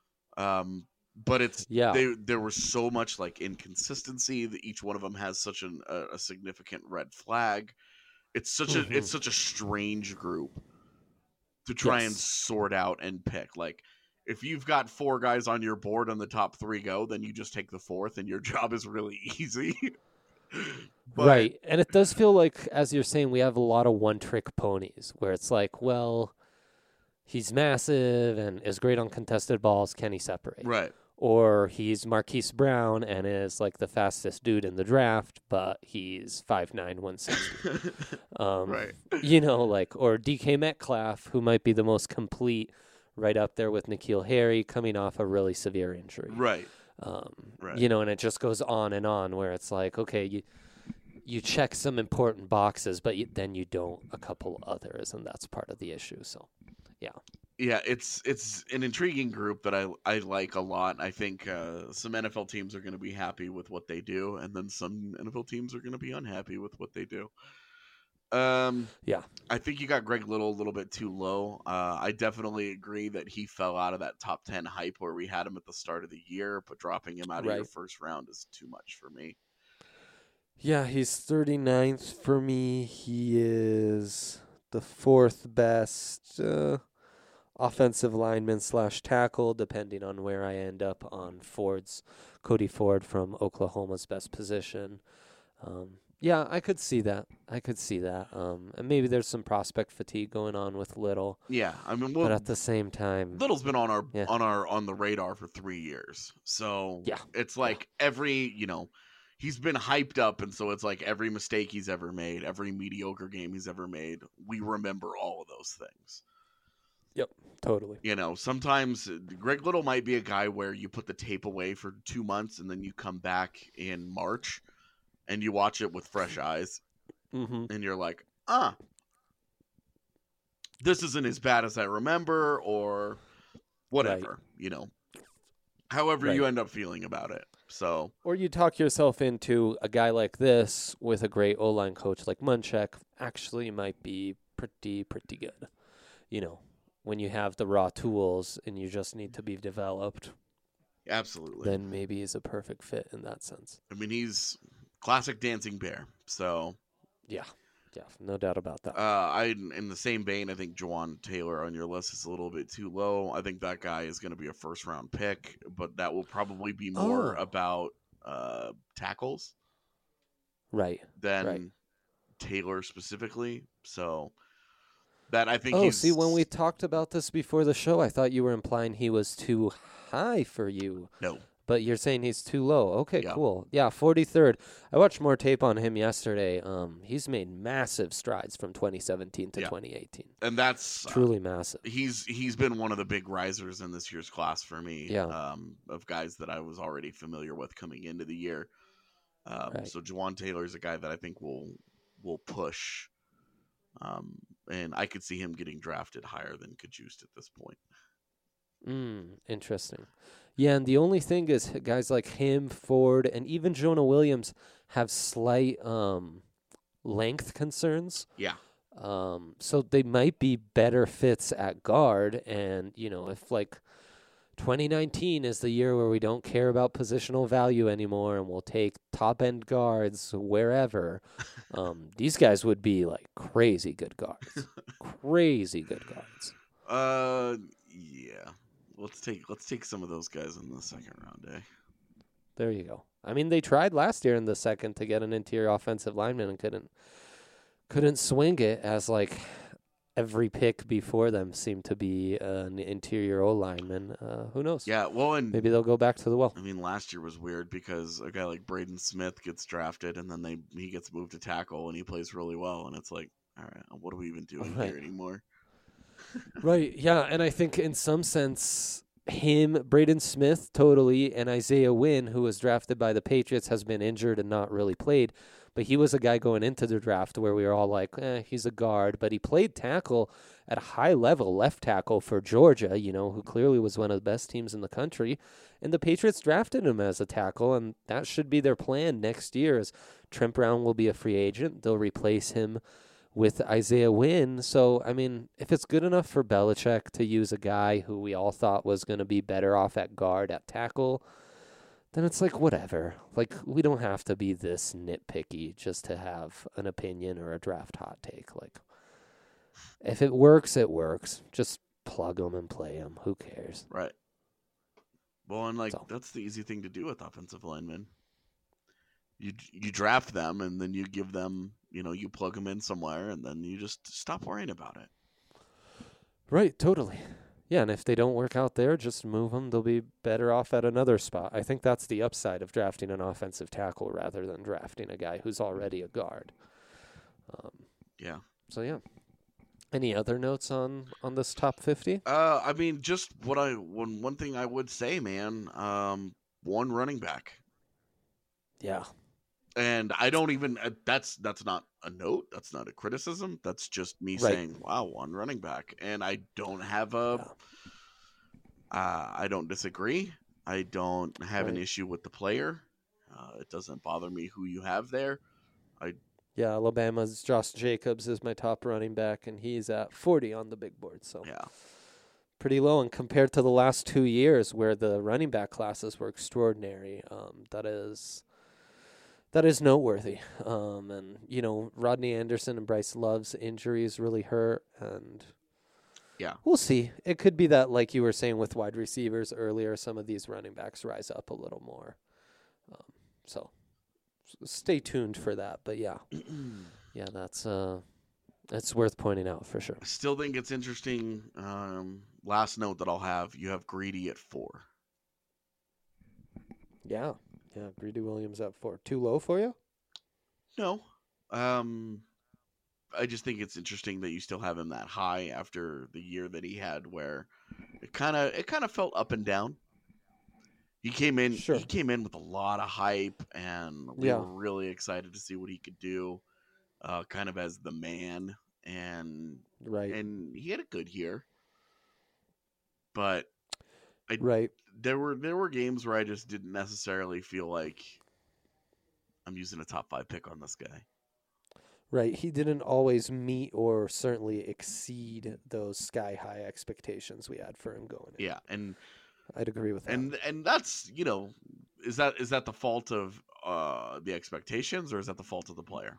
C: Um, but it's
D: Yeah.
C: they there was so much like inconsistency that each one of them has such an, a, a significant red flag. It's such
D: Mhm.
C: a it's such a strange group to try and
D: Yes.
C: sort out and pick. Like, if you've got four guys on your board and the top three go, then you just take the fourth, and your job is really easy. But-
D: Right. And it does feel like, as you're saying, we have a lot of one-trick ponies where it's like, well, he's massive and is great on contested balls. Can he separate?
C: Right.
D: Or he's Marquise Brown and is like the fastest dude in the draft, but he's five nine, one sixty. Um,
C: Right.
D: You know, like, or D K Metcalf, who might be the most complete, right up there with N'Keal Harry, coming off a really severe injury.
C: Right.
D: Um,
C: Right.
D: You know, and it just goes on and on where it's like, okay, you you check some important boxes, but you, then you don't a couple others, and that's part of the issue. So, yeah.
C: Yeah, it's it's an intriguing group that I I like a lot. I think uh, some N F L teams are going to be happy with what they do, and then some N F L teams are going to be unhappy with what they do. Um,
D: Yeah.
C: I think you got Greg Little a little bit too low. Uh, I definitely agree that he fell out of that top ten hype where we had him at the start of the year, but dropping him out of your
D: Right.
C: first round is too much for me.
D: Yeah, he's thirty-ninth for me. He is the fourth best uh, offensive lineman slash tackle, depending on where I end up on Ford's, Cody Ford from Oklahoma's best position. Um, yeah, I could see that. I could see that. Um, and maybe there's some prospect fatigue going on with Little,
C: Yeah, I mean,
D: but
C: well,
D: at the same time,
C: Little's been on our
D: Yeah.
C: on our on the radar for three years, so
D: Yeah.
C: it's like every you know he's been hyped up, and so it's like every mistake he's ever made, every mediocre game he's ever made, we remember all of those things.
D: totally.
C: You know, sometimes Greg Little might be a guy where you put the tape away for two months and then you come back in March and you watch it with fresh eyes,
D: Mm-hmm.
C: and you're like, ah, this isn't as bad as I remember, or whatever, you know, however you
D: Right.
C: end up feeling about it. So,
D: Or you talk yourself into a guy like this with a great O-line coach like Munchak actually might be pretty, pretty good. You know, when you have the raw tools and you just need to be developed,
C: absolutely.
D: then maybe he's a perfect fit in that sense.
C: I mean, he's classic dancing bear. So,
D: Yeah, yeah, no doubt about that.
C: Uh, I in the same vein, I think Jawan Taylor on your list is a little bit too low. I think that guy is going to be a first round pick, but that will probably be more
D: Oh.
C: about uh, tackles
D: right.
C: than
D: Right.
C: Taylor specifically. So that I think
D: Oh,
C: he's
D: see, when we talked about this before the show, I thought you were implying he was too high for you.
C: no.
D: But you're saying he's too low. Okay,
C: Yeah.
D: cool. Yeah, forty-third. I watched more tape on him yesterday. Um, he's made massive strides from twenty seventeen to
C: Yeah.
D: twenty eighteen.
C: And that's uh,
D: Truly massive.
C: he's he's been one of the big risers in this year's class for me.
D: Yeah.
C: Um, of guys that I was already familiar with coming into the year. Um,
D: Right.
C: So Jawan Taylor is a guy that I think will will push. Um, and I could see him getting drafted higher than Kajust at this point.
D: Mm, interesting. Yeah, and the only thing is guys like him, Ford, and even Jonah Williams have slight um, length concerns.
C: Yeah.
D: Um, so they might be better fits at guard. And, you know, if like twenty nineteen is the year where we don't care about positional value anymore and we'll take top end guards wherever, um, these guys would be like crazy good guards. Crazy good guards.
C: Uh, yeah. Let's take let's take some of those guys in the second round, eh?
D: There you go. I mean, they tried last year in the second to get an interior offensive lineman and couldn't couldn't swing it, as like every pick before them seemed to be an interior O lineman. Uh, who knows?
C: Yeah. Well, and
D: Maybe they'll go back to the well.
C: I mean, last year was weird because a guy like Braden Smith gets drafted and then they he gets moved to tackle and he plays really well, and it's like, all right, what are we even doing
D: Right.
C: here anymore?
D: Right. Yeah, and I think in some sense, him, Braden Smith, totally, and Isaiah Wynn, who was drafted by the Patriots, has been injured and not really played. But he was a guy going into the draft where we were all like, eh, he's a guard. But he played tackle at a high level, left tackle for Georgia, you know, who clearly was one of the best teams in the country. And the Patriots drafted him as a tackle, and that should be their plan next year. Is Trent Brown will be a free agent. They'll replace him with Isaiah Wynn. So, I mean, if it's good enough for Belichick to use a guy who we all thought was going to be better off at guard, at tackle, then it's like, whatever. Like, we don't have to be this nitpicky just to have an opinion or a draft hot take. Like, if it works, it works. Just plug them and play them. Who cares?
C: Right. Well, and like
D: So.
C: that's the easy thing to do with offensive linemen. You you draft them and then you give them, you know, you plug them in somewhere and then you just stop worrying about it.
D: Right, totally. Yeah, and if they don't work out there, just move them. They'll be better off at another spot. I think that's the upside of drafting an offensive tackle rather than drafting a guy who's already a guard. Um,
C: Yeah.
D: so, yeah. Any other notes on, on this top fifty?
C: Uh, I mean, just what I one one thing I would say, man. Um, one running back,
D: Yeah.
C: and I don't even. Uh, that's that's not a note. That's not a criticism. That's just me
D: Right.
C: saying, "Wow, one running back," and I don't have a. Uh, I don't disagree. I don't have an
D: Right.
C: issue with the player. Uh, it doesn't bother me who you have there.
D: Yeah, Alabama's Josh Jacobs is my top running back, and he's at forty on the big board. So
C: Yeah.
D: pretty low. And compared to the last two years where the running back classes were extraordinary, um, that is that is noteworthy. Um, and, you know, Rodney Anderson and Bryce Love's injuries really hurt. And
C: Yeah.
D: we'll see. It could be that, like you were saying with wide receivers earlier, some of these running backs rise up a little more. Um, so s- stay tuned for that. But, yeah. Yeah, that's uh, that's worth pointing out for sure.
C: I still think it's interesting. Um, last note that I'll have: you have Greedy at four.
D: Yeah, yeah. Greedy Williams at four. Too low for you?
C: No. Um, I just think it's interesting that you still have him that high after the year that he had, where it kind of it kind of felt up and down. He came in.
D: Sure.
C: He came in with a lot of hype, and we
D: Yeah.
C: were really excited to see what he could do, uh, kind of as the man. And
D: Right.
C: and he had a good year, but I
D: right.
C: there were there were games where I just didn't necessarily feel like I'm using a top five pick on this guy.
D: Right. He didn't always meet or certainly exceed those sky high expectations we had for him going in.
C: Yeah, and
D: I'd agree with that.
C: and and that's, you know, is that is that the fault of uh, the expectations, or is that the fault of the player?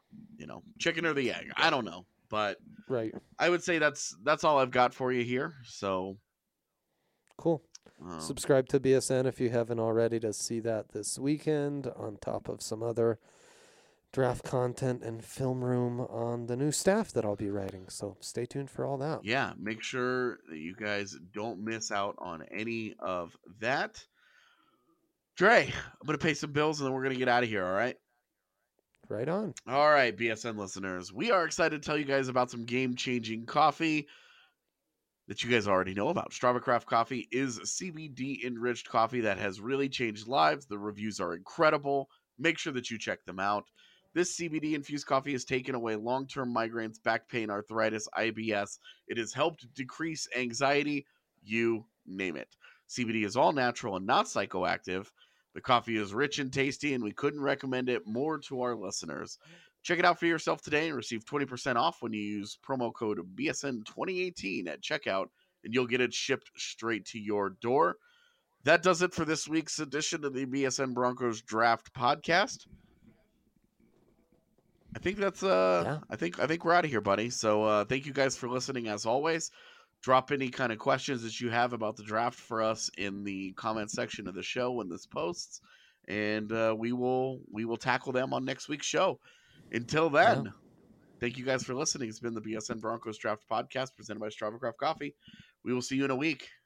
C: you know, chicken or the egg. I don't know, but
D: Right.
C: I would say that's that's all I've got for you here. So
D: Cool.
C: um,
D: Subscribe to B S N if you haven't already to see that this weekend, on top of some other draft content and film room on the new staff that I'll be writing. So stay tuned for all that.
C: yeah, make sure that you guys don't miss out on any of that. Dre, I'm going to pay some bills and then we're going to get out of here, all right?
D: Right on.
C: All right, B S N listeners, we are excited to tell you guys about some game-changing coffee that you guys already know about. Strava Craft Coffee is C B D-enriched coffee that has really changed lives. The reviews are incredible. Make sure that you check them out. This C B D-infused coffee has taken away long-term migraines, back pain, arthritis, I B S. It has helped decrease anxiety, you name it. C B D is all natural and not psychoactive. The coffee is rich and tasty, and we couldn't recommend it more to our listeners. Check it out for yourself today and receive twenty percent off when you use promo code B S N twenty eighteen at checkout, and you'll get it shipped straight to your door. That does it for this week's edition of the B S N Broncos Draft Podcast. I think that's uh
D: Yeah.
C: I think I think we're out of here, buddy. So uh thank you guys for listening as always. Drop any kind of questions that you have about the draft for us in the comment section of the show when this posts, and uh, we will we will tackle them on next week's show. Until then,
D: Yeah.
C: thank you guys for listening. It's been the B S N Broncos Draft Podcast presented by Strava Craft Coffee. We will see you in a week.